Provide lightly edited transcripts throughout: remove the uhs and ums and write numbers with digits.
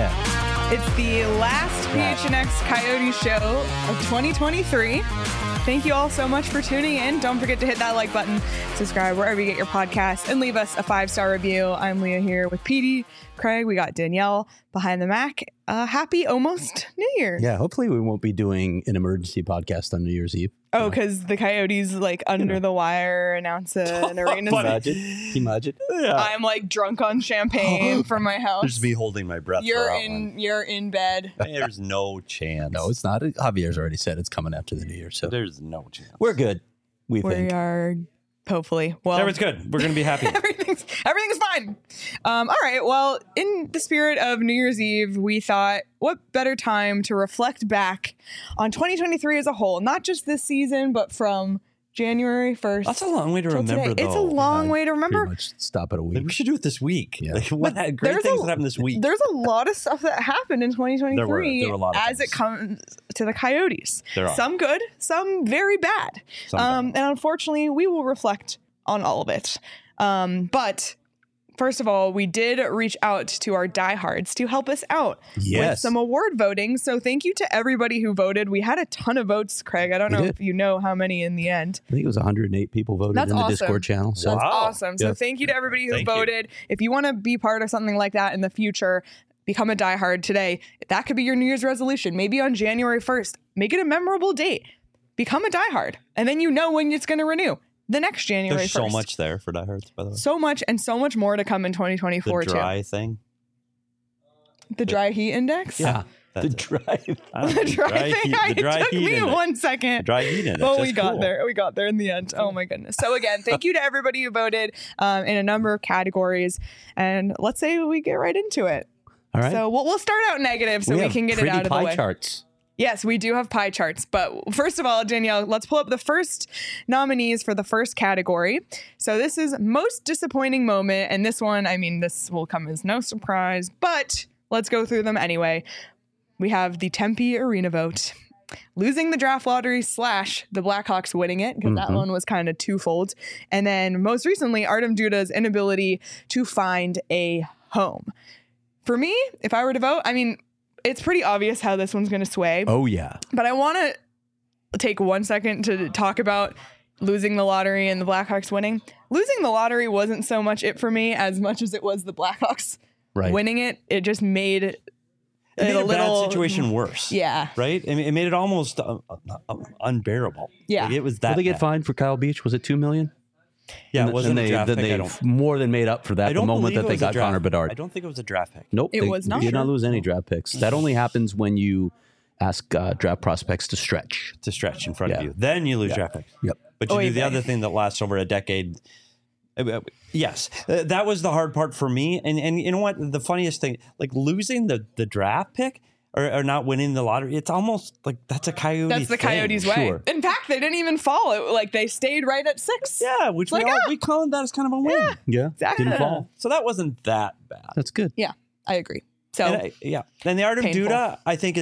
Yeah. It's the last PHNX Coyote show of 2023. Thank you all so much for tuning in. Don't forget to hit that like button, subscribe wherever you get your podcasts, and leave us a 5-star review. I'm Leah here with PD, Craig. We got Danielle behind the Mac. Happy almost New Year. Yeah, hopefully we won't be doing an emergency podcast on New Year's Eve. Oh, because the Coyotes, like, under the wire announce an arena. Imagine. Yeah. I'm, like, drunk on champagne from my house. There's me holding my breath. You're for that in. one. You're in bed. There's no chance. No, it's not. Javier's already said it's coming after the New Year, so There's no chance. we're good. We We think. are hopefully. Well, Everyone's good. We're gonna be happy. everything's fine. All right. Well, in the spirit of New Year's Eve, we thought, what better time to reflect back on 2023 as a whole, not just this season, but from January 1st. That's a long way to till remember, today. though. It's a long way to Pretty remember. much stop at a Like, week. we should do it this week. Yeah. Like, what But great there's things a- that happened this week. There's a lot of stuff that happened in 2023 There were a lot of as it things. comes to the Coyotes. There are. Some good, some very bad. Some bad. And unfortunately, we will reflect on all of it. But first of all, we did reach out to our diehards to help us out with Yes. some award voting. So thank you to everybody who voted. We had a ton of votes, Craig. I don't We know did. if you know how many in the end. I think it was 108 people voted That's in the awesome. Discord channel. So That's Wow. awesome. So Yeah. thank you to everybody who Thank you. voted. If you want to be part of something like that in the future, become a diehard today. That could be your New Year's resolution. Maybe on January 1st, make it a memorable date. Become a diehard. And then you know when it's going to renew. The next January There's 1st. so much there for diehards, by the way. So much and so much more to come in The 2024 dry thing. too. The dry heat index? yeah, That's the it. drive. I don't know, The dry thing. the dry It took heat me in it. 1 second. The dry heat in it. Oh, That's we got cool. there. We got there in the end. Oh my goodness. So again, thank you to everybody who voted in a number of categories. And let's say we get right into it. All right. So we'll start out negative so we have can get it pretty out of the pie way. charts. Yes, we do have pie charts. But first of all, Danielle, let's pull up the first nominees for the first category. So this is most disappointing moment. And this one, I mean, this will come as no surprise, but let's go through them anyway. We have the Tempe Arena vote, losing the draft lottery / the Blackhawks winning it, because that one was kind of twofold. And then most recently, Artem Duda's inability to find a home. For me, if I were to vote, I mean, it's pretty obvious how this one's going to sway. Oh, yeah. But I want to take 1 second to talk about losing the lottery and the Blackhawks winning. Losing the lottery wasn't so much it for me as much as it was the Blackhawks Right. winning it. It just made It made a a little bad situation worse. Yeah. Right? I mean, it made it almost unbearable. Yeah. Like, it was that Did they get bad. fined for Kyle Beach? Was it $2 million? Yeah, it wasn't and a draft then pick. they I don't, more than made up for that I the don't moment believe that it they was a got draft- Connor Bedard. I don't think it was a draft pick. Nope. It they was not. did not Sure. lose any draft picks. That only happens when you ask draft prospects to stretch. To stretch in front of Yeah. you. Then you lose Yeah. draft picks. Yep. But you Oy do the vey. other thing that lasts over a decade. Yes, that was the hard part for me. And you know what? The funniest thing, like losing the draft pick or not winning the lottery, it's almost like that's a Coyote That's the thing. Coyotes' way. Sure. In fact, they didn't even fall. Like they stayed right at 6. Yeah, which Like, we call that as kind of a win. Yeah. Exactly. Didn't fall. So that wasn't that bad. That's good. Yeah, I agree. So And and the Artem Painful. Duda, I think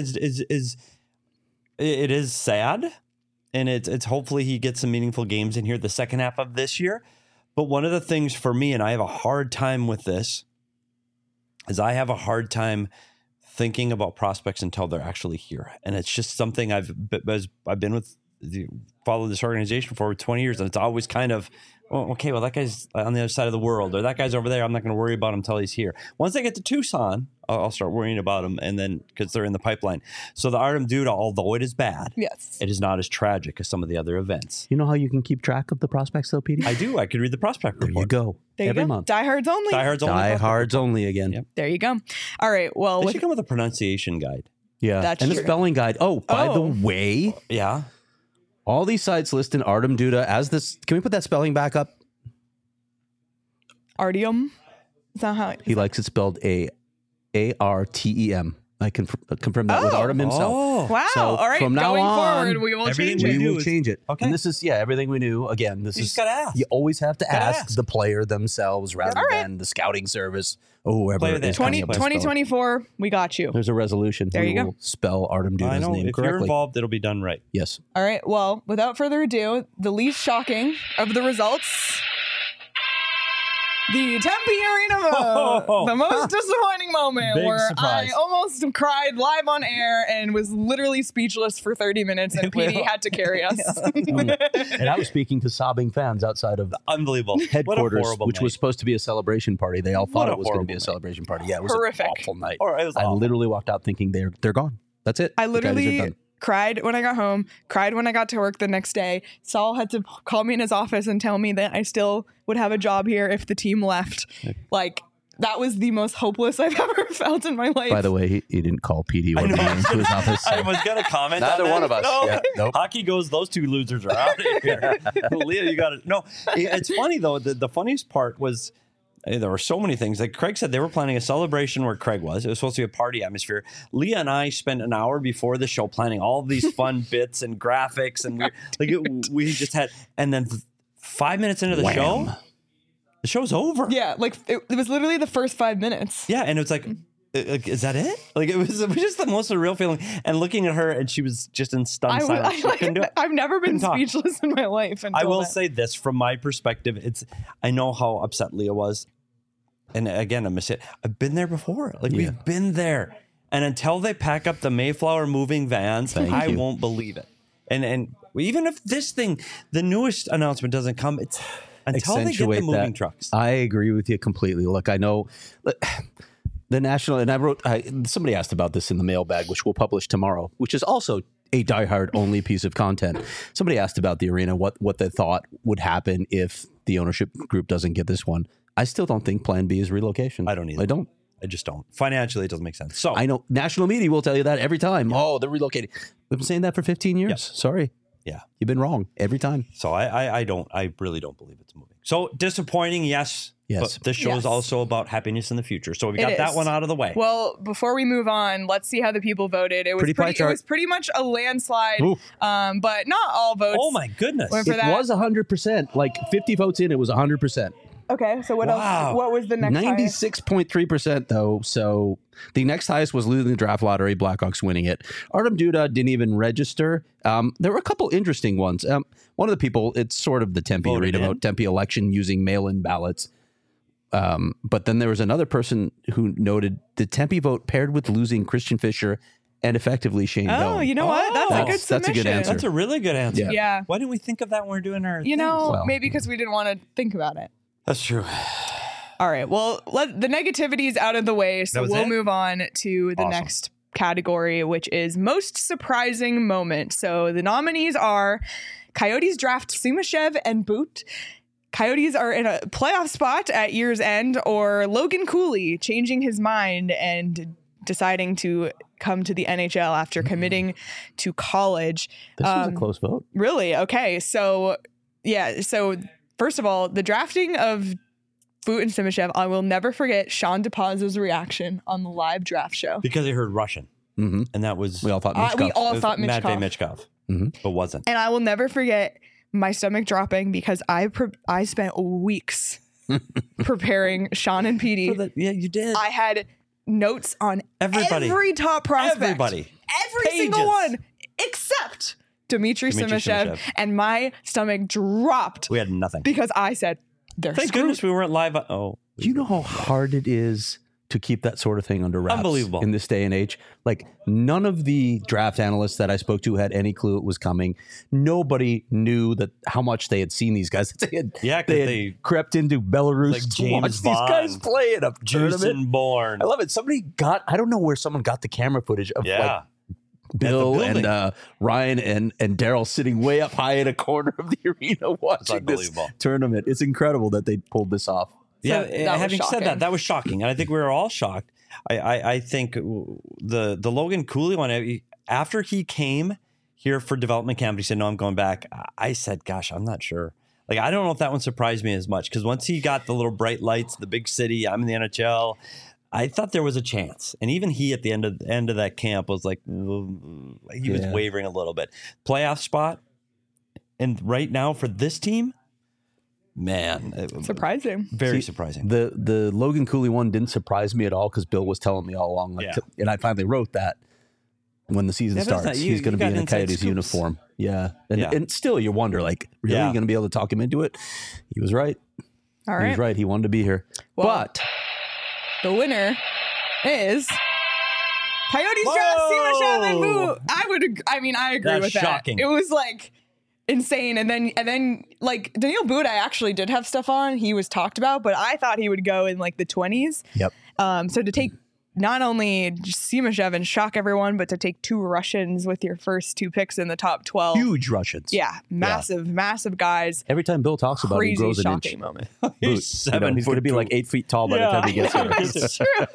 it is sad, and it's hopefully he gets some meaningful games in here the second half of this year. But one of the things for me, and I have a hard time with this, is I have a hard time thinking about prospects until they're actually here, and it's just something I've been with, followed this organization for over 20 years, and it's always kind of, oh, okay, well, that guy's on the other side of the world, or that guy's over there. I'm not going to worry about him until he's here. Once I get to Tucson, I'll start worrying about him, and then because they're in the pipeline. So the Artem Duda, although it is bad, yes. it is not as tragic as some of the other events. You know how you can keep track of the prospects, though, Petey? I do. I could read the prospect There report. you go. There you Every go. month. Diehards only. Diehards only. Diehards only again. Yep. There you go. All right. Well, They with should come with a pronunciation guide. Yeah. That's and true. the spelling guide. Oh, by the Oh. way, Yeah. all these sites listed Artem Duda as this. Can we put that spelling back up? Artyom. Is that how? He likes it spelled ARTEM. I can confirm that with Oh. Artem himself. Oh. Wow. So, all right. from now Going on, forward, we will everything change we it. We do will is- change it. Okay. And this is, everything we knew. Again, this You is, just gotta ask. you always have to Gotta ask ask. the player themselves rather All right. than the scouting service or whoever Player is that- coming up with the spelling. 2024, we got you. There's a resolution. There We you go. will spell Artem I Duda's know. name If you're correctly. involved, it'll be done right. Yes. All right. Well, without further ado, the least shocking of the results. the Tempe Arena, the most disappointing moment Big where surprise. I almost cried live on air and was literally speechless for 30 minutes, and PD had to carry us. And I was speaking to sobbing fans outside of Unbelievable. What a headquarters, horrible which night. was supposed to be a celebration party. They all thought What a it was going to be horrible a night. celebration party. Yeah, it was Horrific. an awful night. Or it was I awful. literally walked out thinking they're gone. That's it. I The Coyotes are literally done. cried when I got home, cried when I got to work the next day. Saul had to call me in his office and tell me that I still would have a job here if the team left. Like, that was the most hopeless I've ever felt in my life. By the way, he didn't call PD I or know. me into his office. I was going to comment Neither on that. one of us. No. Yeah, nope. Hockey goes, those two losers are out of here. Leah, you got it. No, it's funny, though. The funniest part was there were so many things. Like Craig said, they were planning a celebration where Craig was. It was supposed to be a party atmosphere. Leah and I spent an hour before the show planning all of these fun bits and graphics. And we just had, and then 5 minutes into the Wham. show, the show's over. yeah, like it was literally the first 5 minutes. Yeah, and it's like, is that it? Like it was just the most surreal feeling. And looking at her, and she was just in stunned silence. She couldn't do it. I've never been Couldn't talk. speechless in my life. I will then. say this from my perspective. I know how upset Leah was, and again, I've been there before. Like we've been there, and until they pack up the Mayflower moving vans, I you. won't believe it. And even if this thing, the newest announcement doesn't come, it's until they get the Accentuate moving that. trucks. I agree with you completely. Look, I know the national, and somebody asked about this in the mailbag, which we'll publish tomorrow, which is also a diehard only piece of content. Somebody asked about the arena, what they thought would happen if the ownership group doesn't get this one. I still don't think Plan B is relocation. I don't either. I don't. I just don't. Financially, it doesn't make sense. So I know national media will tell you that every time. Oh, they're relocating. We've been saying that for 15 years. Yep. Sorry. yeah. You've been wrong every time. So I really don't believe it's moving. So disappointing, yes. Yes. But this show is Yes. also about happiness in the future. So we It got that is. one out of the way. Well, before we move on, let's see how the people voted. It was Pretty pie it chart. was pretty much a landslide, Oof. but not all votes. Oh my goodness. Went for It that. was 100%. Like 50 votes in, it was 100%. Okay, so what Wow. else? What was the next highest? 96.3% though. So the next highest was losing the draft lottery, Blackhawks winning it. Artem Duda didn't even register. There were a couple interesting ones. One of the people, it's sort of the Tempe Voted arena in. vote, Tempe election using mail-in ballots. But then there was another person who noted the Tempe vote paired with losing Christian Fisher and effectively Shane Oh, Doan. you know what? That's a good That's a good submission. answer. That's a really good answer. Yeah. Yeah. Why didn't we think of that when we're doing our You know, Well. maybe because we didn't want to think about it. That's true. All right. Well, the negativity is out of the way, so That was we'll it? move on to the Awesome. next category, which is most surprising moment. So the nominees are Coyotes draft Sumashev and Boot. Coyotes are in a playoff spot at year's end, or Logan Cooley changing his mind and deciding to come to the NHL after committing to college. This was a close vote. Really? Okay. So, yeah. So, first of all, the drafting of Boot and Simashev, I will never forget Sean DePaz's reaction on the live draft show. Because I heard Russian. Mm-hmm. And that was We all thought We Mitchkov. all it was thought Matvey Michkov. Michkov. But wasn't. And I will never forget my stomach dropping because I spent weeks preparing Sean and PD. Yeah, you did. I had notes on Everybody. every top prospect. Everybody. Every single Pages. one except Dmitry Dmitry Simashev. Simashev. And my stomach dropped We had nothing. because I said, they're Thank screwed. goodness we weren't live. Oh. Do you know how hard it is to keep that sort of thing under wraps? Unbelievable. In this day and age. Like, none of the draft analysts that I spoke to had any clue it was coming. Nobody knew that how much they had seen these guys. They had, Yeah, 'cause they had they- crept into Belarus Like to James watch these guys Bond. play in a tournament. Jason Bourne. I love it. I don't know where someone got the camera footage of Yeah. like Bill building. and Ryan and Daryl sitting way up high in a corner of the arena watching this unbelievable. tournament. It's incredible that they pulled this off. Yeah, that was having said shocking. that was shocking. And I think we were all shocked. I think the Logan Cooley one, after he came here for development camp, he said, no, I'm going back. I said, gosh, I'm not sure. Like, I don't know if that one surprised me as much because once he got the little bright lights, the big city, I'm in the NHL, I thought there was a chance. And even he at the end of that camp was like, he was Yeah. wavering a little bit. Playoff spot. And right now for this team, man, Surprising. very See, surprising. The Logan Cooley one didn't surprise me at all because Bill was telling me all along. Like, Yeah. and I finally wrote that when the season Yeah, but it's starts, not- you- he's going you to be got in a inside Coyotes scoops. uniform. Yeah. And, Yeah. and still you wonder, like, really, Yeah. you going to be able to talk him into it? He was right. All He's right. right. He wanted to be here. Well, but the winner is Coyotes Whoa! draft Simashev and Boo. I agree That's with that. shocking. It was like insane. And then like Daniil Booth, I actually did have stuff on. He was talked about, but I thought he would go in like the 20s. yep. So to take not only Simashev and shock everyone, but to take 2 Russians with your first 2 picks in the top 12. Huge Russians. Yeah, massive guys. Every time Bill talks about it, he Crazy grows an shocking inch. moment. He's Boot, he's going to be like 8 feet tall by the time he gets here. It's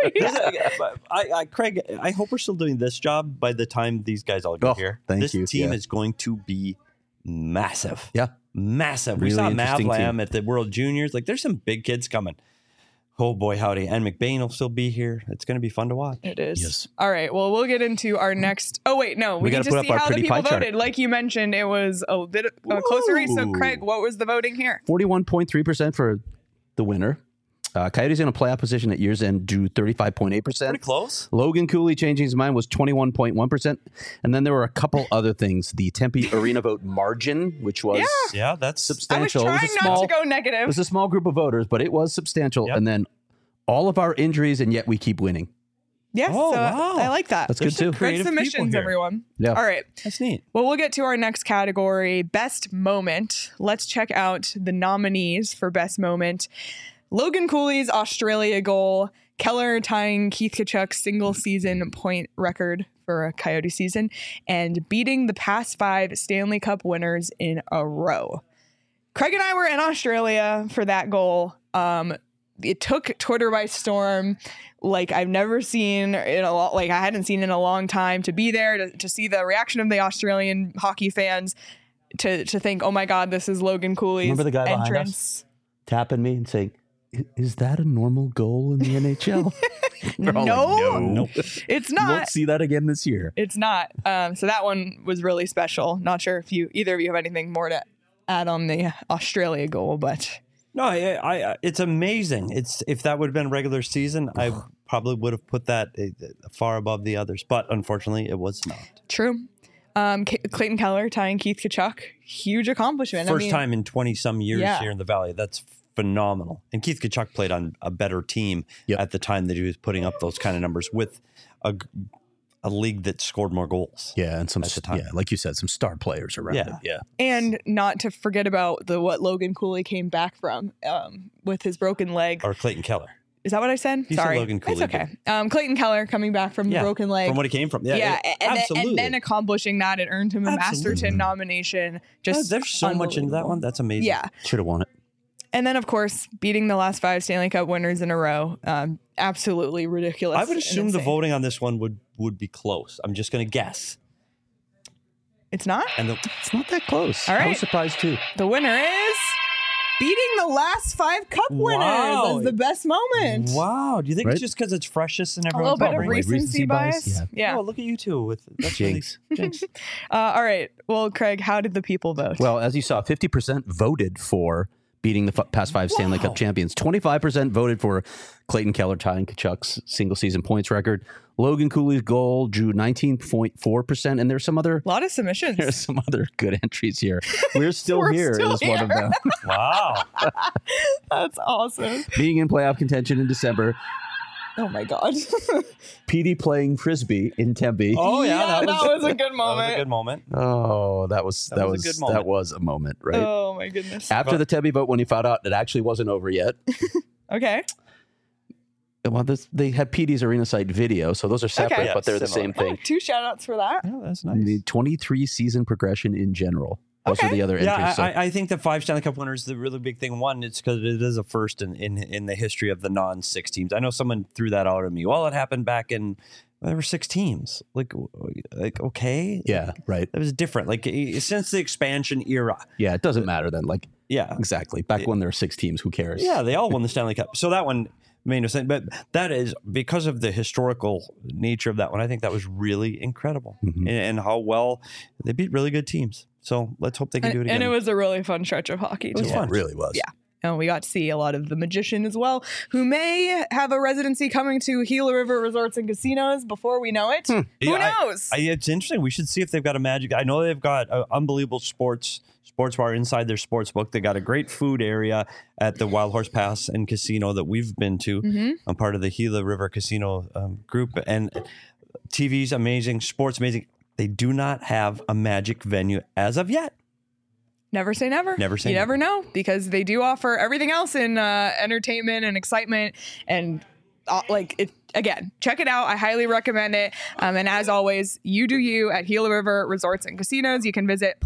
true. Craig, I hope we're still doing this job by the time these guys all get Oh, here. thank this you. team Yeah. is going to be massive. Yeah. Massive. Really We saw interesting Mavlam team. at the World Juniors. Like, there's some big kids coming. Oh, boy, howdy. And McBain will still be here. It's going to be fun to watch. It is. Yes. All right. Well, we'll get into our next. Oh, wait. No. We need gotta to put up see our how the pretty people pie chart. voted. Like you mentioned, it was a bit a closer race. So, Ooh. Craig, what was the voting here? 41.3% for the winner. Coyotes in a playoff position at year's end drew 35.8%. Pretty close. Logan Cooley changing his mind was 21.1%. And then there were a couple other things. The Tempe Arena vote margin, which was Yeah, that's I was substantial. trying it was a not small, to go it negative. was a small group of voters, but it was substantial. Yep. And then all of our injuries, and yet we keep winning. Yes. Oh, so wow. I like that. That's There's good too. some Good creative people submissions, here. everyone. Yeah. All right. That's neat. Well, we'll get to our next category, Best Moment. Let's check out the nominees for Best Moment. Logan Cooley's Australia goal, Keller tying Keith Tkachuk's single season point record for a Coyote season, and beating the past 5 Stanley Cup winners in a row. Craig and I were in Australia for that goal. It took Twitter by storm, like I've never seen in a lot, like I hadn't seen in a long time, to be there to see the reaction of the Australian hockey fans, to think, oh my God, this is Logan Cooley's Remember the guy behind us? entrance. Tapping me and saying, is that a normal goal in the NHL? We're all No. Nope. It's You won't not. see that again this year. It's not. So that one was really special. Not sure if either of you have anything more to add on the Australia goal, but No, I it's amazing. It's if that would have been regular season, I probably would have put that far above the others. But unfortunately, it was not. true. Clayton Keller tying Keith Tkachuk, huge accomplishment. First time in 20 some years Yeah. here in the Valley. That's phenomenal. And Keith Tkachuk played on a better team Yep. at the time that he was putting up those kind of numbers with a league that scored more goals. Yeah, and some, At the time. yeah, like you said, some star players around Yeah. him. Yeah. And not to forget about what Logan Cooley came back from with his broken leg. Or Clayton Keller. Is that what I said? You said Sorry. Logan Cooley, It's okay. Clayton Keller coming back from the broken leg. From what he came from. Yeah, absolutely. and then accomplishing that, it earned him a Absolutely. Masterton nomination. Yeah, Just there's so much into that one. That's amazing. Yeah. Should have won it. And then, of course, beating the last 5 Stanley Cup winners in a row. Absolutely ridiculous. I would and assume the insane. voting on this one would be close. I'm just going to guess. It's not? And the, It's not that close. All I right. was surprised too. The winner is beating the last 5 Cup winners Wow. as the best moment. wow. Do you think Right? it's just because it's freshest and A everyone's little bit of celebrating? recency bias. Yeah. Oh, look at you two with that's Jinx. Really, jinx. All right. Well, Craig, how did the people vote? Well, as you saw, 50% voted for beating the past 5 Stanley Wow. Cup champions. 25% voted for Clayton Keller tying Kachuk's single season points record. Logan Cooley's goal drew 19.4%, and there's some other a lot of submissions. there's some other good entries here. We're still We're here still is one of here. them. Wow. That's awesome. Being in playoff contention in December, Oh my God. Petey playing frisbee in Tempe. Oh yeah, that was a good That was moment. a good moment. Oh, that was That was a good moment. that was a moment, right? Oh my goodness. After the Tempe vote, when he found out it actually wasn't over yet, Okay. well, they had Petey's arena site video, so those are separate, Okay. but they're the Similar. same thing. 2 shout outs for that. Yeah, that's The 23 season progression in general. Those are Okay. the other entries. Yeah, so- I think the 5 Stanley Cup winners, the really big thing. One, it's because it is a first in the history of the non-6 teams. I know someone threw that out at me. Well, it happened back in there were 6 teams. Like okay, yeah, right. that was different. Like since the expansion era. Yeah, it doesn't matter then. Like, Yeah, exactly. Back when there were 6 teams, who cares? yeah, they all won the Stanley Cup. So that one made no sense. But that is because of the historical nature of that one. I think that was really incredible, Mhm. and how well they beat really good teams. So let's hope they can do it again. And it was a really fun stretch of hockey. It was too. Yeah, fun. it really was. Yeah. And we got to see a lot of the Magician as well, who may have a residency coming to Gila River Resorts and Casinos before we know it. Who knows? It's interesting. We should see if they've got a magic. I know they've got an unbelievable sports bar inside their sports book. They got a great food area at the Wild Horse Pass and Casino that we've been to. I'm part of the Gila River Casino group, and TV's amazing, sports amazing. They do not have a magic venue as of yet. Never say never. Never say you never. never know, because they do offer everything else in entertainment and excitement and again, check it out. I highly recommend it. And as always, you do you at Gila River Resorts and Casinos. You can visit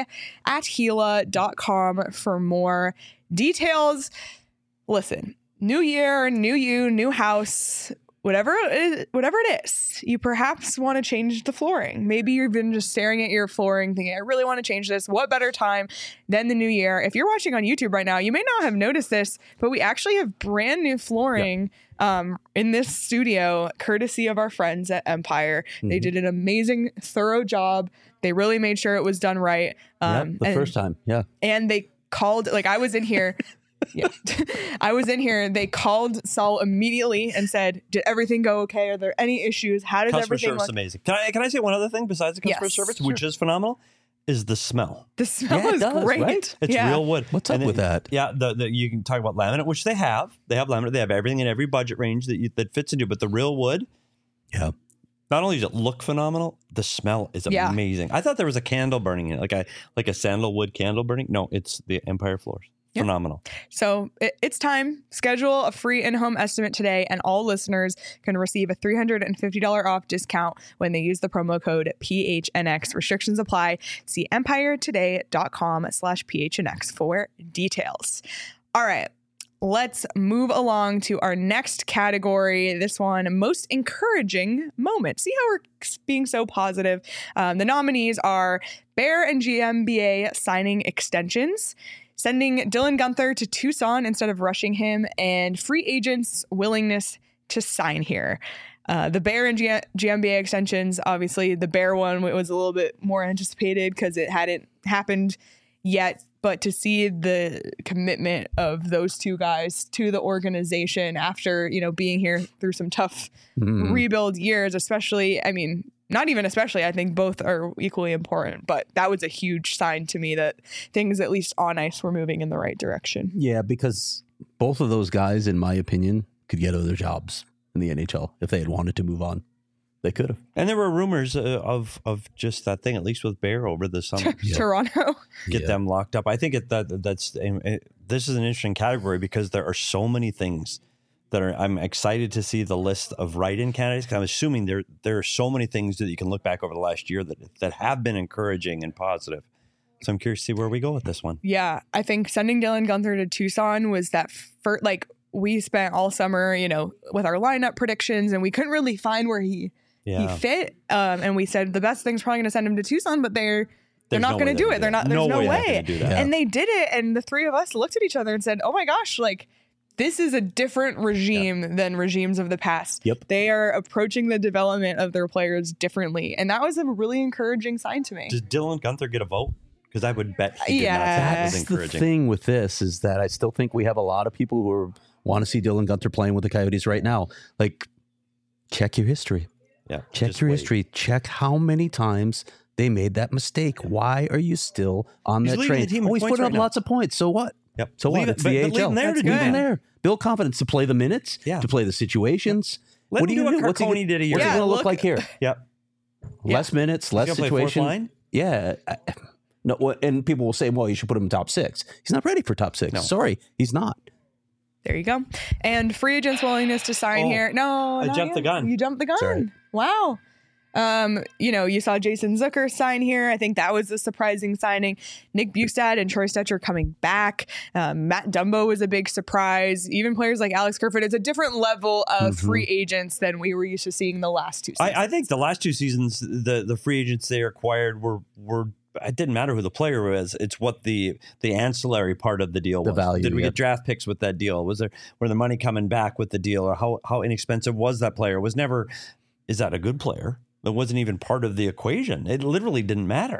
playatgila.com for more details. Listen, new year, new you, new house. Whatever it is, you perhaps want to change the flooring. Maybe you've been just staring at your flooring thinking, I really want to change this. What better time than the new year? If you're watching on YouTube right now, you may not have noticed this, but we actually have brand new flooring in this studio, courtesy of our friends at Empire. They did an amazing, thorough job. They really made sure it was done right. First time. Yeah. And they called, I was in here. Yeah. I was in here. They called Saul immediately and said, did everything go okay? Are there any issues? How does Customer everything service look? amazing. Can I say one other thing besides the customer service, which is phenomenal, is the smell. The smell is great. Right? It's real wood. What's up with that? Yeah, you can talk about laminate, which they have. They have laminate. They have everything in every budget range that fits into. But the real wood, yeah. Not only does it look phenomenal, the smell is amazing. I thought there was a candle burning in it, like a sandalwood candle burning. No, it's the Empire floors. Phenomenal. So it's time. Schedule a free in-home estimate today, and all listeners can receive a $350 off discount when they use the promo code PHNX. Restrictions apply. See empiretoday.com/PHNX for details. All right. Let's move along to our next category. This one, most encouraging moment. See how we're being so positive? The nominees are Bear and GMBA signing extensions, sending Dylan Guenther to Tucson instead of rushing him, and free agents' willingness to sign here. The Bear and GMBA extensions, obviously the Bear one was a little bit more anticipated because it hadn't happened yet. But to see the commitment of those two guys to the organization after, being here through some tough rebuild years, especially, not even especially, I think both are equally important, but that was a huge sign to me that things, at least on ice, were moving in the right direction. Yeah, because both of those guys, in my opinion, could get other jobs in the NHL if they had wanted to move on. They could have. And there were rumors of just that thing, at least with Bear over the summer. Toronto. Get them locked up. I think this is an interesting category because there are so many things that I'm excited to see the list of write-in candidates. Because I'm assuming there are so many things that you can look back over the last year that have been encouraging and positive. So I'm curious to see where we go with this one. Yeah, I think sending Dylan Guenther to Tucson was that first, we spent all summer, with our lineup predictions, and we couldn't really find where he fit. And we said the best thing's probably going to send him to Tucson, but they're not going to do it. There's no way. And they did it. And the three of us looked at each other and said, oh my gosh, this is a different regime than regimes of the past. Yep. They are approaching the development of their players differently. And that was a really encouraging sign to me. Does Dylan Guenther get a vote? Because I would bet he did not. That was encouraging. The thing with this is that I still think we have a lot of people who want to see Dylan Guenther playing with the Coyotes right now. Check your history. Yeah. Check your history. Check how many times they made that mistake. Why are you still on that train? He's putting up lots of points. So what? Yep. So what? It's the AHL. Leave him there to do that. There. Build confidence to play the minutes, to play the situations. Let him do what Carconi did a year ago. What's he going to look like here? Yep. Less minutes, less situation. Yeah. No, and people will say, well, you should put him in top 6. He's not ready for top 6. No. Sorry, he's not. There you go. And free agents' willingness to sign here. No, I jumped the gun. You jumped the gun. Sorry. Wow. You saw Jason Zucker sign here. I think that was a surprising signing. Nick Bjugstad and Troy Stecher coming back. Matt Dumbo was a big surprise. Even players like Alex Kerfoot. It's a different level of free agents than we were used to seeing the last 2 seasons. I think the last 2 seasons, the free agents they acquired were it didn't matter who the player was. It's what the ancillary part of the deal was. The value. Did we get draft picks with that deal? Were the money coming back with the deal, or how inexpensive was that player? Was never, is that a good player? That wasn't even part of the equation. It literally didn't matter.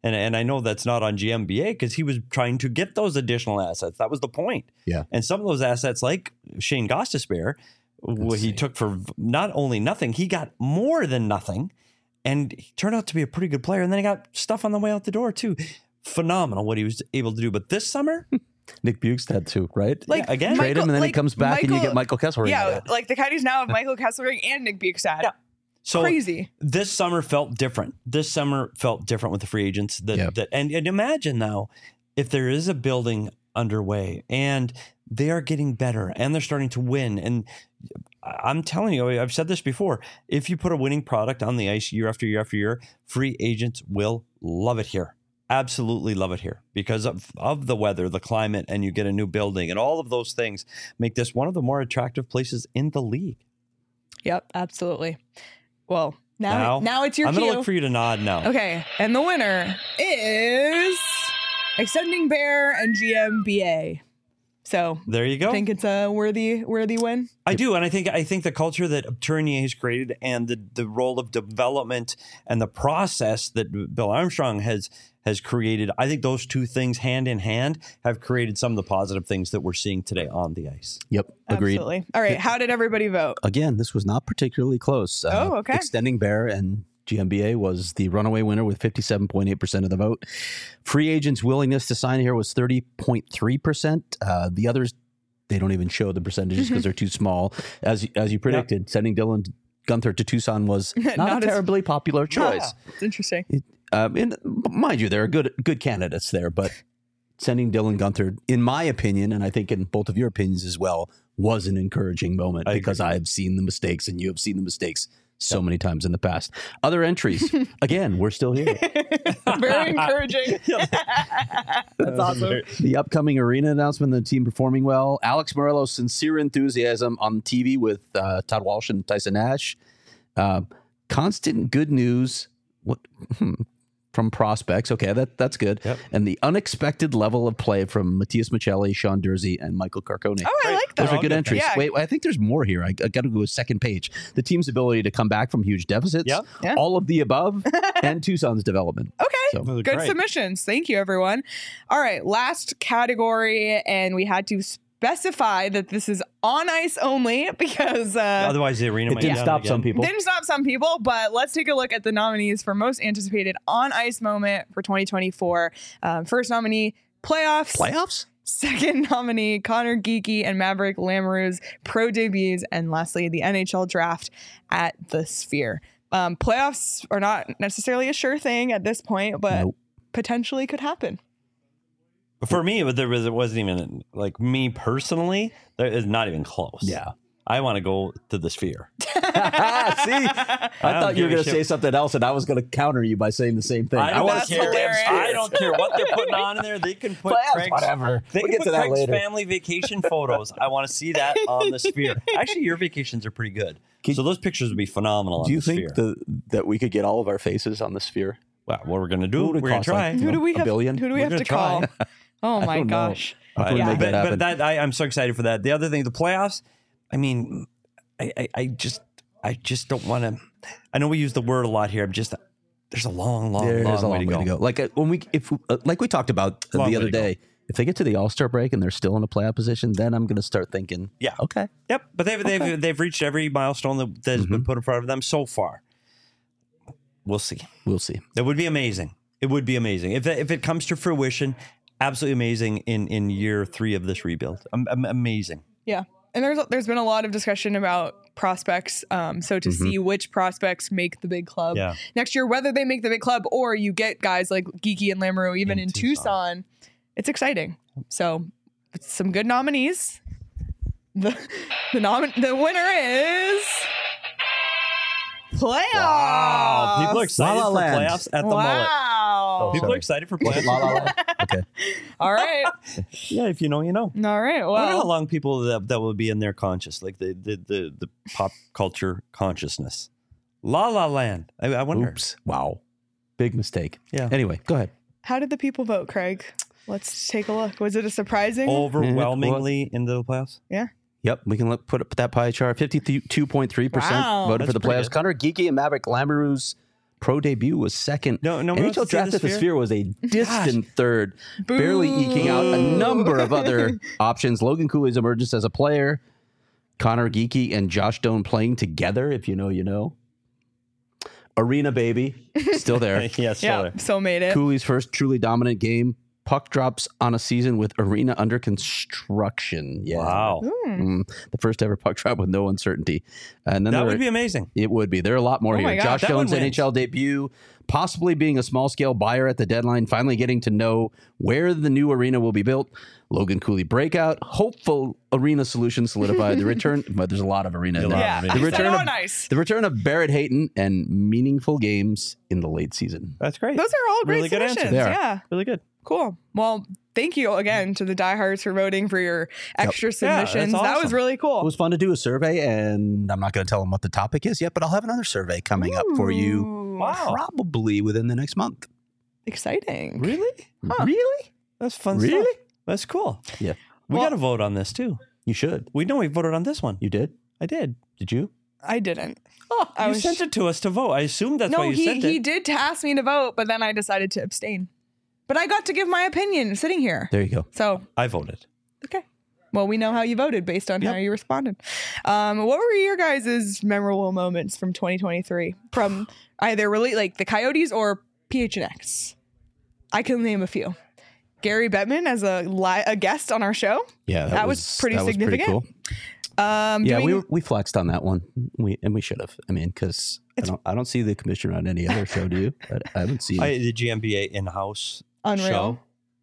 And I know that's not on GMBA because he was trying to get those additional assets. That was the point. Yeah. And some of those assets, like Shane Gostisbehere, what he took for not only nothing, he got more than nothing. And he turned out to be a pretty good player. And then he got stuff on the way out the door, too. Phenomenal what he was able to do. But this summer, Nick Bukestad too, right? Like, again, trade him and then he like, comes back and you get Michael Kesselring. Yeah, like the Coyotes now have Michael Kesselring and Nick Bukestad. Yeah. So crazy. This summer felt different. This summer felt different with the free agents. And imagine now if there is a building underway and they are getting better and they're starting to win. And I'm telling you, I've said this before. If you put a winning product on the ice year after year after year, free agents will love it here. Absolutely love it here because of the weather, the climate, and you get a new building and all of those things make this one of the more attractive places in the league. Yep, absolutely. Well, now it's your I'm cue. going to look for you to nod now. Okay, and the winner is Extending Bear and GMBA. So There you go. I think it's a worthy win. I do, and I think the culture that Tournier has created and the role of development and the process that Bill Armstrong has created, I think those two things hand in hand have created some of the positive things that we're seeing today on the ice. Yep, agreed. Absolutely. All right, how did everybody vote? Again, this was not particularly close. Okay. Extending Bear and GMBA was the runaway winner with 57.8% of the vote. Free agents' willingness to sign here was 30.3%. The others, they don't even show the percentages because they're too small. As you predicted, sending Dylan Guenther to Tucson was not a terribly popular choice. It's interesting. And mind you, there are good candidates there, but sending Dylan Guenther, in my opinion, and I think in both of your opinions as well, was an encouraging moment because I have seen the mistakes and you have seen the mistakes so many times in the past. Other entries, again, we're still here. Very encouraging. That's awesome. The upcoming arena announcement, the team performing well. Alex Morello's sincere enthusiasm on TV with Todd Walsh and Tyson Nash. Constant good news from prospects. Okay, that's good. Yep. And the unexpected level of play from Matthias Michelli, Sean Dursey, and Michael Carcone. Oh, I like that. Those are good entries. Yeah. Wait, I think there's more here. I got to go to second page. The team's ability to come back from huge deficits, Yep. Yeah. all of the above, and Tucson's development. Okay. So, Good Great. submissions. Thank you, everyone. All right, last category, and we had to specify that this is on ice only because Otherwise, the arena it might didn't down stop again. some people. didn't stop some people, but let's take a look at the nominees for most anticipated on ice moment for 2024. First nominee, playoffs. Playoffs? Second nominee, Connor Geekie and Maverick Lamoureux's pro debuts. And lastly, the NHL draft at the Sphere. Playoffs are not necessarily a sure thing at this point, but Nope. potentially could happen. For me, it wasn't even like me personally. It's not even close. Yeah. I want to go to the Sphere. See, I thought you were give a going to shit. say something else, and I was going to counter you by saying the same thing. I don't That's care. hilarious. I don't care what they're putting on in there. They can put Playoffs, Craig's, whatever. They We'll can get put to that Craig's later. family vacation photos. I want to see that on the Sphere. Actually, your vacations are pretty good. So those pictures would be phenomenal on Do you the think Sphere. that we could get all of our faces on the Sphere? Well, what we're going to do, What would it we're going cost, to try. like, Who do we a have? billion? Who do we We're have to gonna call? Oh my don't know. gosh. How can we make that happen? But I'm so excited for that. The other thing, the playoffs. I mean, I just don't want to. I know we use the word a lot here. There's a long There's a way to go. Like like we talked about Long the way other to go. day, if they get to the All-Star break and they're still in a playoff position, then I'm going to start thinking, Yeah. okay, Yep, but they've reached every milestone that has been put in front of them so far. We'll see. we'll see. It would be amazing. It would be amazing if it comes to fruition. Absolutely amazing in year 3 of this rebuild. Amazing. Yeah. And there's been a lot of discussion about prospects. So to see which prospects make the big club Yeah. next year, whether they make the big club or you get guys like Geekie and Lamoureux even in Tucson, it's exciting. So it's some good nominees. The winner is playoffs. Wow, people are excited La La for Land. playoffs at the mullet. Wow. People sorry. are excited for Was it La La playoffs. Land? Okay. All right. Yeah, if you know, you know. All right. I wonder how Well, long people that will be in their conscious, like the pop culture consciousness. La La Land. I wonder. Oops. Wow. Big mistake. Yeah. Anyway, go ahead. how did the people vote, Craig? Let's take a look. Was it a surprising? Overwhelmingly into the playoffs. Yeah. Yep, we can put that pie chart. 52.3% Wow. voted for That's the pretty playoffs. good. Connor Geekie and Maverick Lamoureux's pro debut was second. No one wants NHL to see Draft the at the Sphere? Sphere was a distant third, barely eking out a number of other options. Logan Cooley's emergence as a player, Connor Geekie and Josh Doan playing together, if you know, you know. Arena baby, still there. Yeah, still Yeah, there. so made it. Cooley's first truly dominant game. Puck drops on a season with arena under construction. Yeah. Wow. The first ever puck drop with no uncertainty. And then That would be amazing. it would be. There are a lot more Oh here. my God. Josh That one Jones' wins. NHL debut, possibly being a small scale buyer at the deadline, finally getting to know where the new arena will be built. Logan Cooley breakout, hopeful arena solution solidified. The return, but there's a lot of arena. in there. Yeah, The I said return of- on ice. The return of Barrett Hayton and meaningful games in the late season. That's great. Those are all great Really good answers. submissions. They are. Yeah, Really good. cool. Well, thank you again to the diehards for voting for your extra Yeah, submissions. that's That was awesome. really cool. It was fun to do a survey, and I'm not going to tell them what the topic is yet, but I'll have another survey coming up for you Ooh, Wow. probably within the next month. exciting. Really? Really? That's fun Really? stuff. That's cool. Yeah. We Well- got to vote on this too. You should. We voted on this one. You did? I did. Did you? I didn't. Oh, I you was- sent it to us to vote. I assumed that's why No, you he sent he it. did ask me to vote, but then I decided to abstain. But I got to give my opinion sitting here. There you go. So I voted. okay. Well, we know how you voted based on how Yep. you responded. What were your guys' memorable moments from 2023 from either really like the Coyotes or PHNX? I can name a few. Gary Bettman as a guest on our show. Yeah, That was pretty significant. cool. Yeah, Doing- we flexed on that one. We should have. I mean, because I don't see the commissioner on any other show. Do you? I haven't seen. The GMBA in-house Unreal. show.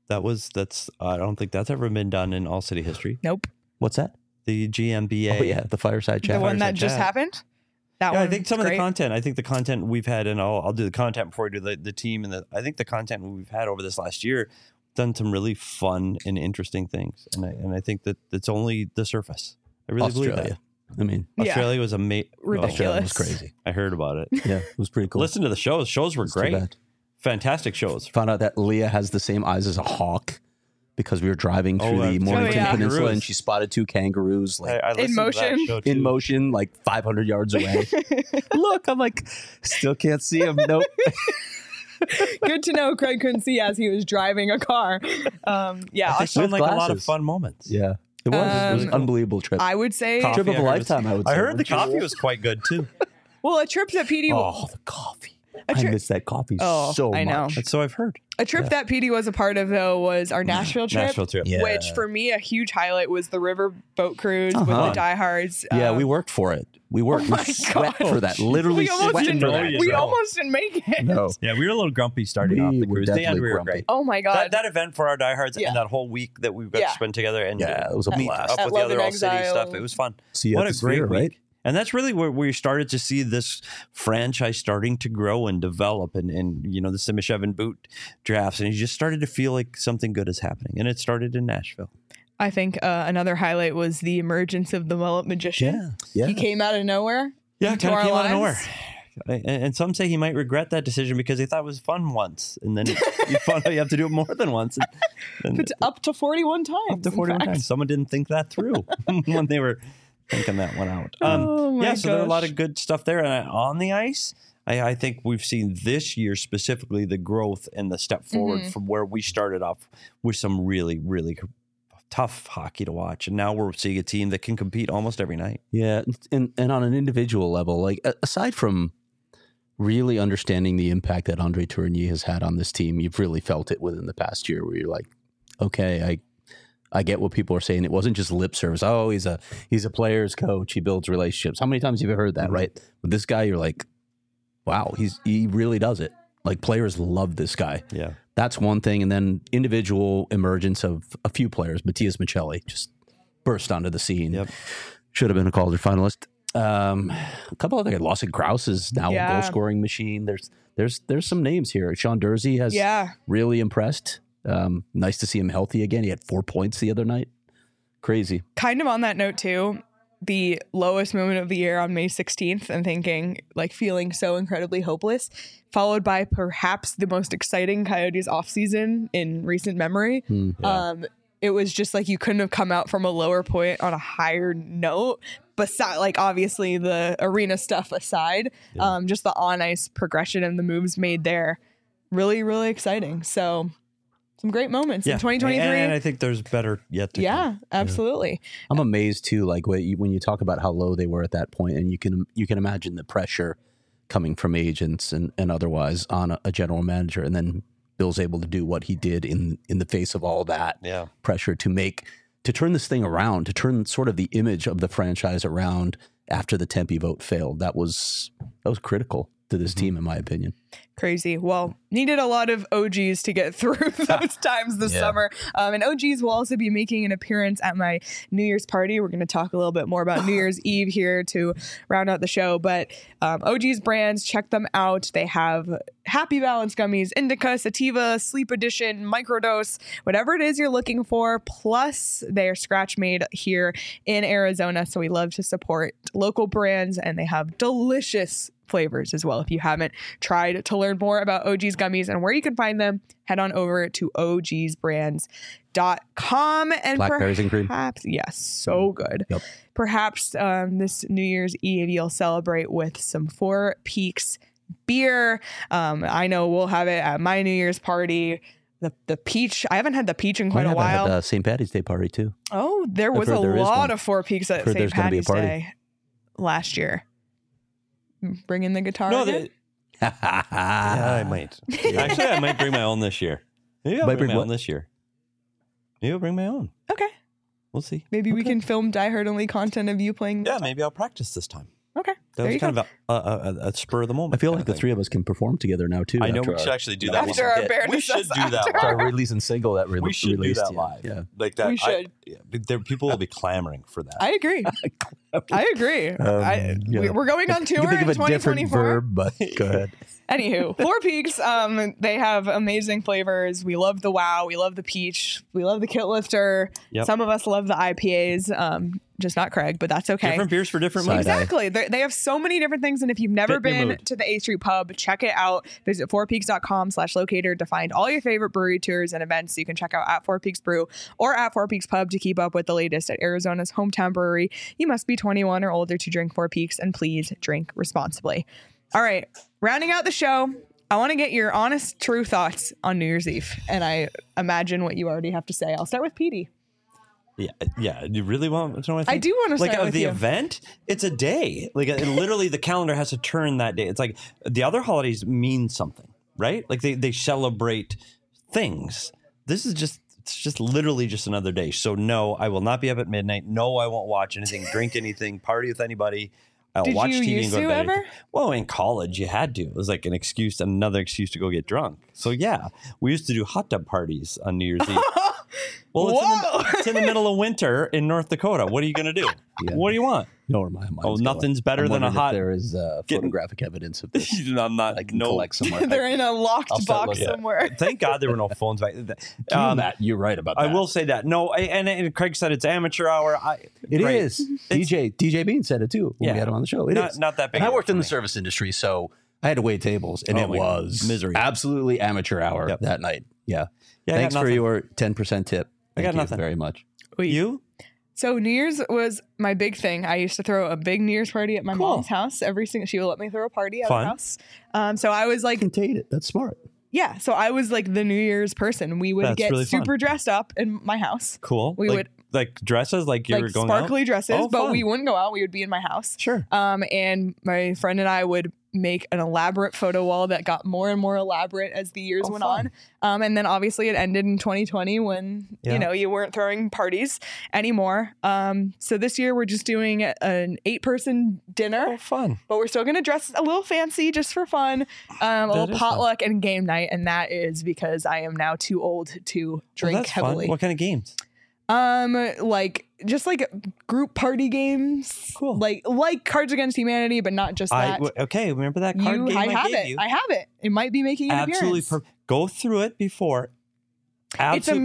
That's I don't think that's ever been done in All City history. Nope. What's that? The GMBA. Oh yeah, the fireside chat. The one that Fireside just chat. happened. That Yeah, one. I think some of the great. content. I think the content we've had, and I'll do the content before I do the team. And I think the content we've had over this last year done some really fun and interesting things. And I think that it's only the surface. I really believe Australia. that. I mean, Yeah. Australia was amazing. Ridiculous. Australia was crazy. I heard about it. Yeah, it was pretty cool. Listen to the shows. Shows were It's too great. bad. Fantastic shows. Found out that Leah has the same eyes as a hawk because we were driving through the that's Mornington right. Peninsula Kangaroos. and she spotted two kangaroos like I listened to that motion. show, in too. motion, like 500 yards away. Look, I'm like, still can't see them. Nope. Good to know Craig couldn't see as he was driving a car. Yeah, They sound With like a lot of glasses. fun moments. Yeah, it was an unbelievable trip. I would say. Coffee, Trip of I a heard lifetime, I would say. I heard the wouldn't you? coffee was quite good too. Well, a trip that PD. Oh, the coffee. I tri- miss that coffee Oh, so I know. much. That's so I've heard. A trip that PD was a part of, though, was our Nashville trip. Nashville trip. Yeah. Which, for me, a huge highlight was the river boat cruise with Uh-huh. the diehards. Yeah, we worked for it. We worked. Oh we my sweat God. for that. Literally we almost sweat didn't. for know that. you We know. almost didn't make it. No. Yeah, we were a little grumpy starting We off the were cruise. The definitely end we were grumpy. great. Oh my god. That event for our diehards Yeah. and that whole week that we got Yeah. to spend together and Yeah, it was a meet blast. up At with the Love other and All City Exile. stuff. It was fun. See you What at a the great Sphere, week. right? And that's really where we started to see this franchise starting to grow and develop, and the Simishev boot drafts, and you just started to feel like something good is happening. And it started in Nashville. I think another highlight was the emergence of the mullet magician. Yeah. He came out of nowhere. Yeah, into kind of our came out of nowhere. lives. And some say he might regret that decision because he thought it was fun once, and then you found out you have to do it more than once. And It's up to 41 times. up to in 41 fact. times. Someone didn't think that through when they were thinking that one out. Oh, my so there are a lot gosh. of good stuff there. And on the ice, I think we've seen this year specifically the growth and the step forward Mm-hmm. from where we started off with some really, really tough hockey to watch. And now we're seeing a team that can compete almost every night. Yeah, and on an individual level, like aside from really understanding the impact that Andre Tourigny has had on this team, you've really felt it within the past year where you're like, okay, I get what people are saying. It wasn't just lip service. Oh, he's a player's coach. He builds relationships. How many times have you heard that, right? With this guy, you're like, wow, he really does it. Like players love this guy. Yeah. That's one thing. And then individual emergence of a few players. Matthias Michelli just burst onto the scene. Yep. Should have been a Calder finalist. A couple other guys. Lawson Krause is now Yeah. a goal scoring machine. There's some names here. Sean Dursey has really impressed. Nice to see him healthy again. He had 4 points the other night. Crazy. Kind of on that note, too, the lowest moment of the year on May 16th and thinking, like, feeling so incredibly hopeless, followed by perhaps the most exciting Coyotes offseason in recent memory. it was just like you couldn't have come out from a lower point on a higher note. Beside, like obviously the arena stuff aside, just the on ice progression and the moves made there, really, really exciting. So some great moments in 2023. And I think there's better yet to come. Absolutely. I'm amazed too, like when you talk about how low they were at that point, and you can imagine the pressure coming from agents and otherwise on a general manager, and then Bill's able to do what he did in the face of all that pressure to turn this thing around, to turn sort of the image of the franchise around after the Tempe vote failed. That was critical to this team, in my opinion. Crazy. Well, needed a lot of OGs to get through those times this summer. And OGs will also be making an appearance at my New Year's party. We're going to talk a little bit more about New Year's Eve here to round out the show. But OGs brands, check them out. They have Happy Balance gummies, Indica, Sativa, Sleep Edition, Microdose, whatever it is you're looking for. Plus, they are scratch made here in Arizona. So we love to support local brands, and they have delicious flavors as well. If you haven't tried to learn more about OG's gummies and where you can find them, head on over to ogsbrands.com. And Blackberries and cream. Yes, so good. Yep. Perhaps this New Year's Eve you'll celebrate with some Four Peaks beer. I know we'll have it at my New Year's party. The peach, I haven't had the peach in quite a while. I had St. Patty's Day party too. Oh, there was a lot of Four Peaks at St. Patty's Day last year. Bring in the guitar again? Yeah, I might. Actually, I might bring my own this year. Maybe I'll bring my own this year. Maybe I'll bring my own. Okay. We'll see. Maybe we can film Die Hard only content of you playing. Yeah, maybe I'll practice this time. Okay. That was kind of a spur of the moment. I feel like the three of us can perform together now too. I know we should actually do that. After our bare we should do that live. Our releasing single that we should do that live. Yeah. Like that. We should. People will be clamoring for that. I agree. I agree. We're going on tour think in of a different 2024. verb, but go ahead. Anywho, Four Peaks, they have amazing flavors. We love the Wow. We love the Peach. We love the Kit Lifter. Yep. Some of us love the IPAs, just not Craig, but that's okay. Different beers for different moods. Exactly. They have so many different things. And if you've never been to the A Street Pub, check it out. Visit fourpeaks.com/locator to find all your favorite brewery tours and events. So you can check out at Four Peaks Brew or at Four Peaks Pub to keep up with the latest at Arizona's hometown brewery. You must be 21 or older to drink Four Peaks, and please drink responsibly. All right. Rounding out the show, I want to get your honest, true thoughts on New Year's Eve. And I imagine what you already have to say. I'll start with Petey. Yeah. You really want to know what I think? I do want to start like with the you. event. It's a day. Like literally, the calendar has to turn that day. It's like the other holidays mean something, right? Like they celebrate things. This is just literally just another day. So no, I will not be up at midnight. No, I won't watch anything, drink anything, party with anybody. I'll Did watch you TV used and go to to bed. ever? Well, in college, you had to. It was like another excuse to go get drunk. So yeah, we used to do hot tub parties on New Year's Eve. Well, it's in the middle of winter in North Dakota. What are you going to do? Yeah. What do you want? No, my mind's nothing's going. better than a hot. There is photographic evidence of this. I'm not. I can collect somewhere. They're in a locked start box looking. somewhere. Thank God there were no phones back then. Matt, you're right about that. I will say that. No, and Craig said it's amateur hour. It is. DJ Bean said it too when we had him on the show. It is not that big. And I worked in the service industry, so I had to wait tables, and it was misery. Absolutely amateur hour that night. Yeah. Thanks for your 10% tip. I got nothing. Very much. Wait, you? So New Year's was my big thing. I used to throw a big New Year's party at my mom's house. She would let me throw a party at her house. So I was like, contain it. That's smart. Yeah. So I was like the New Year's person. We would get really super dressed up in my house. Cool. We would like dresses, like you were going sparkly out? dresses, but fun. we wouldn't go out. We would be in my house. Sure. And my friend and I would make an elaborate photo wall that got more and more elaborate as the years went on. And then obviously it ended in 2020 when, you weren't throwing parties anymore. So this year we're just doing an 8-person dinner. Oh, fun. But we're still going to dress a little fancy just for fun. A little potluck and game night. And that is because I am now too old to drink heavily. Fun. What kind of games? Like just like group party games. Cool. Like Cards Against Humanity, but not just that. Okay, remember that card game I gave you? I have it. It might be making an appearance. Go through it before. It's a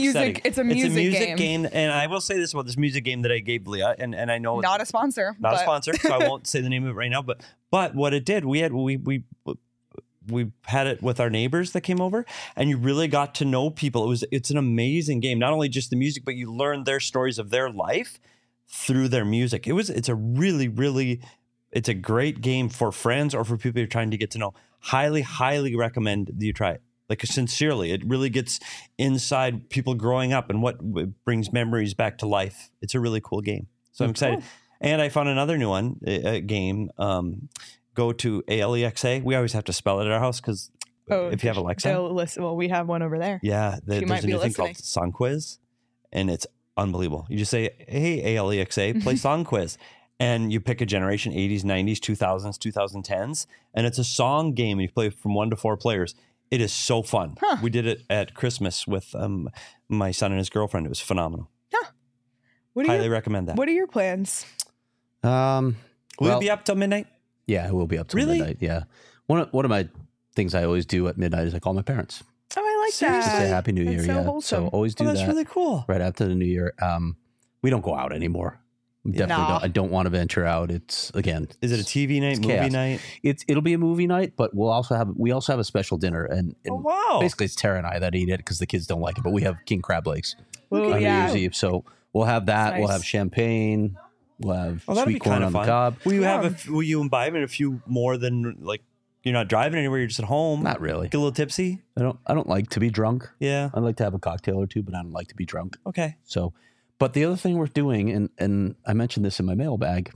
music game. And I will say this about this music game that I gave Leah, and I know not a sponsor. Not a sponsor, so I won't say the name of it right now. But what it did, we we had it with our neighbors that came over, and you really got to know people. It's an amazing game. Not only just the music, but you learn their stories of their life through their music. It's a really, really, it's a great game for friends or for people you're trying to get to know. Highly, highly recommend that you try it. Like, sincerely, it really gets inside people growing up and what brings memories back to life. It's a really cool game. So I'm excited. And I found another new one, a game. Go to ALEXA. We always have to spell it at our house because if you have Alexa. Well, we have one over there. Yeah, there's might a be new thing listening. called Song Quiz, and it's unbelievable. You just say, hey, ALEXA, play Song Quiz. And you pick a generation, 80s, 90s, 2000s, 2010s. And it's a song game. And you play from 1 to 4 players. It is so fun. Huh. We did it at Christmas with my son and his girlfriend. It was phenomenal. Highly recommend that. What are your plans? Will well, you be up till midnight? Yeah, it will be up till Really? midnight. Yeah. One of my things I always do at midnight is I call my parents. Oh, I like Seriously? that. Say Happy New Year. That's so Yeah. wholesome. So always do Oh, that's that really cool. right after the New Year. We don't go out anymore. Definitely Nah. don't. I don't want to venture out. It's again. Is it a TV night, it's movie chaos. night? It'll be a movie night, but we also have a special dinner and Oh, wow. basically it's Tara and I that eat it because the kids don't like it. But we have king crab legs Ooh, on yeah. New Year's Eve, so we'll have that. That's We'll nice. have champagne. We'll have Oh, that'll be sweet corn kind on of the fun. cob. Will you Yeah. will you imbibe in a few more than, like, you're not driving anywhere, you're just at home? Not really. Get a little tipsy? I don't like to be drunk. Yeah. I like to have a cocktail or two, but I don't like to be drunk. Okay. So, but the other thing we're doing, and I mentioned this in my mailbag,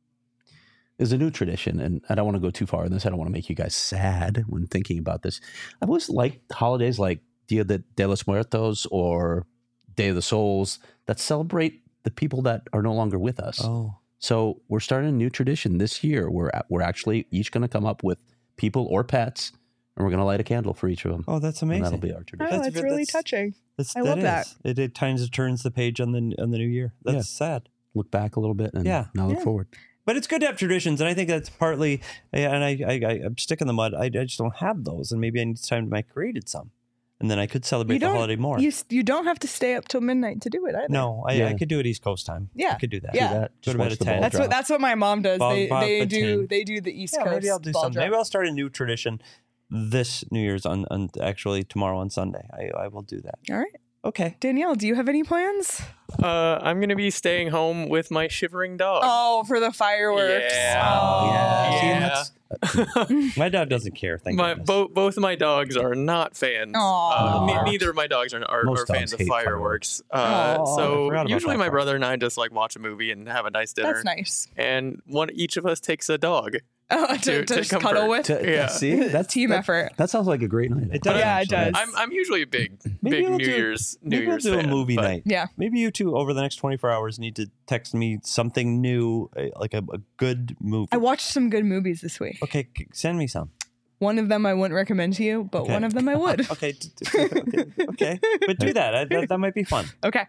is a new tradition. And I don't want to go too far in this. I don't want to make you guys sad when thinking about this. I've always liked holidays like Dia de los Muertos or Day of the Souls that celebrate the people that are no longer with us. Oh. So we're starting a new tradition this year. We're actually each going to come up with people or pets, and we're going to light a candle for each of them. Oh, that's And amazing. that'll be our Oh, tradition. That's that's really that's- touching. I love that. It kind of turns the page on the new year. That's sad. Look back a little bit and Yeah. now look Yeah. forward. But it's good to have traditions, and I think that's partly, and I'm stick in the mud. I just don't have those, and maybe I need time to make created some, and then I could celebrate the holiday more. You don't have to stay up till midnight to do it either. No, I Yeah. could do it East Coast time. Yeah. I could do that. Yeah. Do that. Go Just to bed watch at the 10. ball That's drop. what my mom does. Bob They at do 10. the East Yeah, Coast. maybe I'll do ball something. drop. Maybe I'll start a new tradition this New Year's on actually tomorrow on Sunday. I will do that. All right, Okay. Danielle, do you have any plans? I'm gonna be staying home with my shivering dog. Oh, for the fireworks. Yeah. Oh, Yeah. See, and Yeah. that's- My dog doesn't care. Thank My goodness. both of my dogs are not fans. Aw. Neither of my dogs are Most fans dogs of hate fireworks. Aw. I forgot So about usually that my part. brother and I just like watch a movie and have a nice dinner. That's nice. And each of us takes a dog. Oh, To to just comfort. cuddle with. Yeah. See, that's Team effort. That sounds like a great night. It does. Yeah, it actually. does. I'm usually a big Maybe we'll New do- Year's Maybe we'll do a fan, movie but- night. Yeah. Maybe you two over the next 24 hours need to text me something new, like a good movie. I watched some good movies this week. Okay, send me some. One of them I wouldn't recommend to you, but Okay. one of them I would. Okay, okay, but do that. That might be fun. Okay.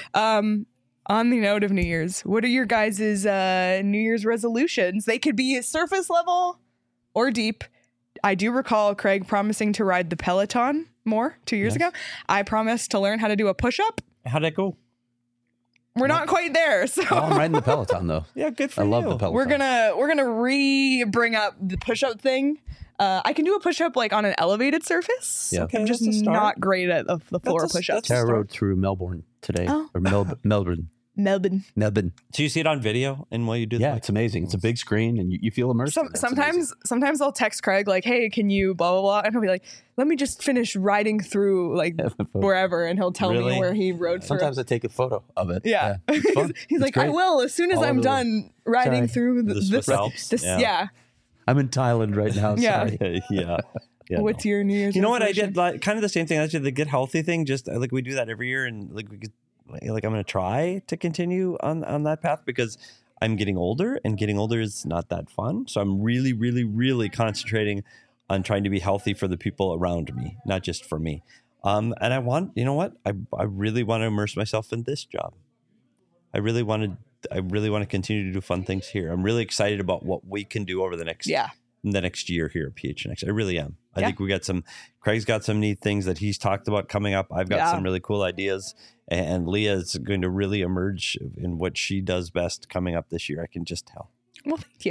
On the note of New Year's, what are your guys' New Year's resolutions? They could be surface level or deep. I do recall Craig promising to ride the Peloton more 2 years Yes. ago. I promised to learn how to do a push-up. How'd that go? We're not quite there, so Oh, I'm riding the Peloton though. Yeah, good for I you. love the Peloton. we're gonna bring up the push-up thing. I can do a push-up like on an elevated surface. Yeah. Okay, I'm just that's a start. not great at the floor That's a- push-ups. that's Tara start. rode through Melbourne today, Oh. or Melbourne. Melbourne. So you see it on video, and while you do Yeah, that, it's amazing. It's a big screen, and you feel immersed. in it. It's amazing. Sometimes I'll text Craig like, "Hey, can you blah blah blah?" And he'll be like, "Let me just finish riding through like wherever," and he'll tell Really? me where he rode through. Sometimes I take a photo of it. Yeah. It's fun. He's It's like, "I great. will as soon as All I'm over the world. done riding Sorry. through The Swiss this." Alps? This, Yeah. yeah. I'm in Thailand right now. Yeah. Sorry. yeah. Yeah, What's no. your New Year's? You know what I resolution? did? Like, kind of the same thing. I did the Get Healthy thing. Just like we do that every year, and like we could, like I'm going to try to continue on that path because I'm getting older, and getting older is not that fun. So I'm really, really, really concentrating on trying to be healthy for the people around me, not just for me. And I want, you know what? I really want to immerse myself in this job. I really want to continue to do fun things here. I'm really excited about what we can do over the next year here at PHNX. I really am. I think we got Craig's got some neat things that he's talked about coming up. I've got some really cool ideas, and Leah is going to really emerge in what she does best coming up this year. I can just tell. Well, thank you.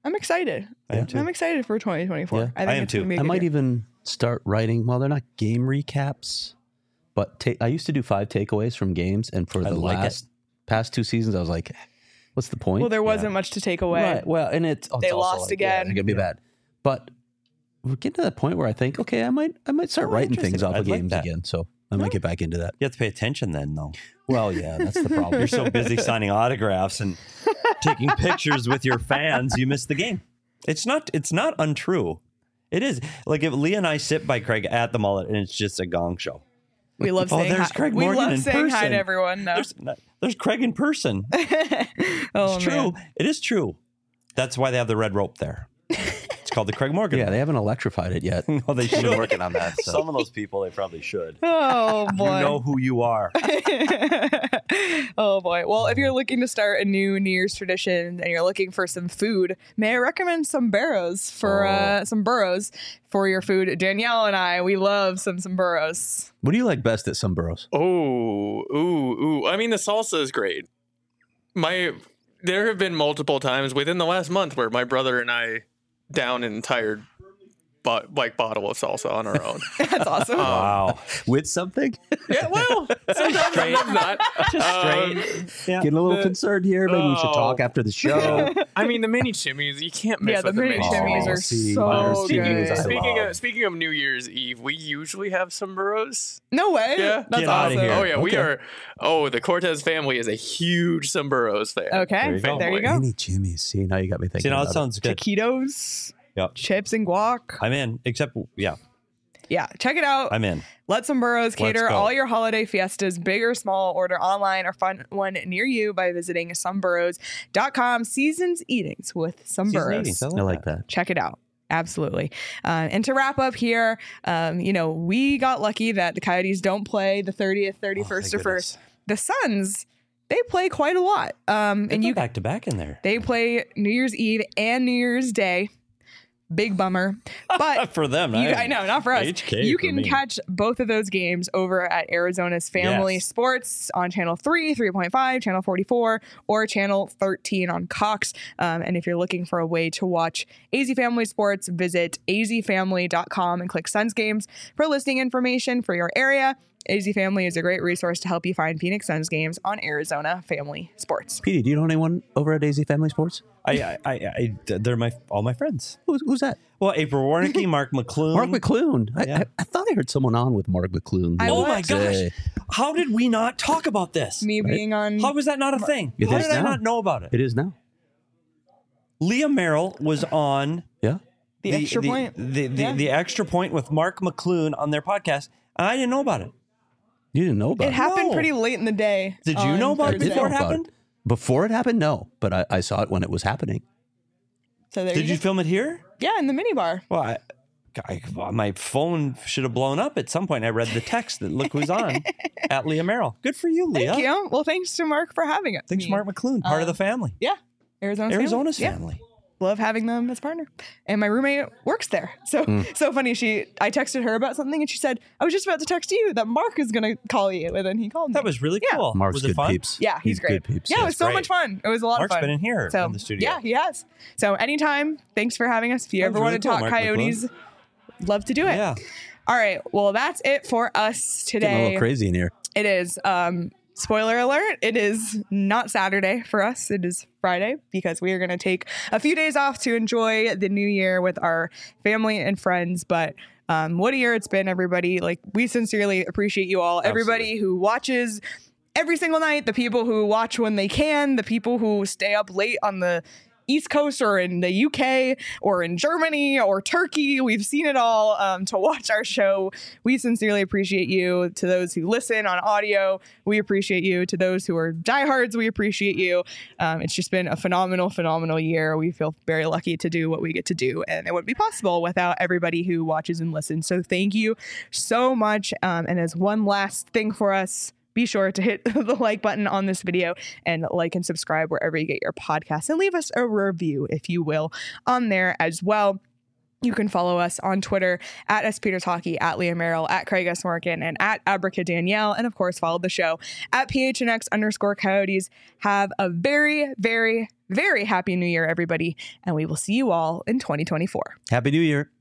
I'm excited. I am too. I'm excited for 2024. Yeah. I think I am it's too. gonna be a I good might year. even start writing. Well, they're not game recaps, but I used to do 5 takeaways from games, and for I the like it. past 2 seasons, I was like, "What's the point?" Well, there wasn't much to take away. Right. Well, and it's They it's also lost again. Yeah, it could be bad, but we're getting to that point where I think, okay, I might start writing things interesting. off of I'd like games that. again. So I might get back into that. You have to pay attention then, though. Well, yeah, that's the problem. You're so busy signing autographs and taking pictures with your fans, you miss the game. It's not untrue. It is. Like if Leah and I sit by Craig at the Mullet and it's just a gong show. We love Oh, saying there's hi. Craig We Morgan love in saying hi person. to everyone. No. There's Craig in person. Oh, It's true. man. It is true. That's why they have the red rope there. It's called the Craig Morgan. Yeah, they haven't electrified it yet. No, they should. We're working on that. So. Some of those people, they probably should. Oh You boy. know who you are. Oh boy. Well, if you're looking to start a new Year's tradition and you're looking for some food, may I recommend some burros for your food? Danielle and I, we love some burros. What do you like best at some burros? Oh, ooh. I mean, the salsa is great. There have been multiple times within the last month where my brother and I down an entire bottle of salsa on our own. That's awesome. Wow. With something? Yeah, well, sometimes not. Getting a little concerned here. Maybe we should Oh. talk after the show. I mean, the mini chimneys, you can't miss Yeah, the with the mini mini chimneys are see, so Myers good. chimneys, I love. Speaking of New Year's Eve, we usually have some burros. No way. Yeah. That's Get outta awesome. here. Oh yeah, we Okay. are. Oh, the Cortez family is a huge Sombrros fan. Okay. There There you you go. go. Any Jimmy's. See, now you got me thinking. See, now it about sounds good. Taquitos, Yep. chips and guac. I'm in. Except, yeah, Yeah, check it out. I'm in. Let Some Burros cater go. all your holiday fiestas, big or small. Order online or find one near you by visiting someburros.com. Seasons eatings with Some Season Burros. eatings, I like that. Check it out. Absolutely. And to wrap up here, we got lucky that the Coyotes don't play the 30th, 31st, or thank 1st. The Suns, they play quite a lot. And you back to back in there. they play New Year's Eve and New Year's Day. Big bummer. But For them, I know, not for us. HK You for can me. catch both of those games over at Arizona's Family Yes. Sports on Channel 3, 3.5, Channel 44, or Channel 13 on Cox. And if you're looking for a way to watch AZ Family Sports, visit azfamily.com and click Suns Games for listing information for your area. AZ Family is a great resource to help you find Phoenix Suns games on Arizona Family Sports. Petey, do you know anyone over at AZ Family Sports? They're all my friends. Who's that? Well, April Warnicki, Mark McClune. Mark McClune. Yeah. I thought I heard someone on with Mark McClune. the I other Oh my day. gosh! How did we not talk about this? Me being on. How was that not a thing? It How is did I now. not know about it? It is now. Leah Merrill was on Yeah. The extra point. Yeah. The extra point with Mark McClune on their podcast. And I didn't know about it. You didn't know about It it. happened No. pretty late in the day. Did you on know about it Thursday. before it know about happened? Before it happened, no. But I saw it when it was happening. So there Did you go. film it here? Yeah, in the minibar. Well, my phone should have blown up at some point. I read the text that look who's on at Leah Merrill. Good for you, Leah. Thank you. Well, thanks to Mark for having us. Thanks, Mark McClune, part of the family. Yeah, Arizona's Arizona's family. family. Yeah. Love having them as partner. And my roommate works there. So so funny. I texted her about something and she said, I was just about to text you that Mark is gonna call you. And then he called me. That was really Yeah. cool. Mark's was it good fun? peeps. Yeah, he's great. good peeps. Yeah, it was That's so great. much fun. It was a lot Mark's of fun. been in here So, in the studio. Yeah, he has. So anytime, thanks for having us. If you That ever was want really to cool, talk Mark Coyotes, love to do it. Yeah. All right. Well, that's it for us Getting a today. little crazy in here. It is. Spoiler alert, it is not Saturday for us. It is Friday because we are going to take a few days off to enjoy the new year with our family and friends. But what a year it's been, everybody. Like, we sincerely appreciate you all. Everybody who watches every single night, the people who watch when they can, the people who stay up late on the East Coast or in the UK or in Germany or Turkey. We've seen it all to watch our show. We sincerely appreciate you. To those who listen on audio, we appreciate you. To those who are diehards, we appreciate you. It's just been a phenomenal year. We feel very lucky to do what we get to do, and it wouldn't be possible without everybody who watches and listens. So thank you so much. And as one last thing for us, be sure to hit the like button on this video and like and subscribe wherever you get your podcasts, and leave us a review, if you will, on there as well. You can follow us on Twitter at SPetersHockey, at Leah Merrill, at Craig S. Morgan, and at Abrica Danielle. And of course, follow the show at PHNX_Coyotes. Have a very, very, very happy new year, everybody. And we will see you all in 2024. Happy New Year.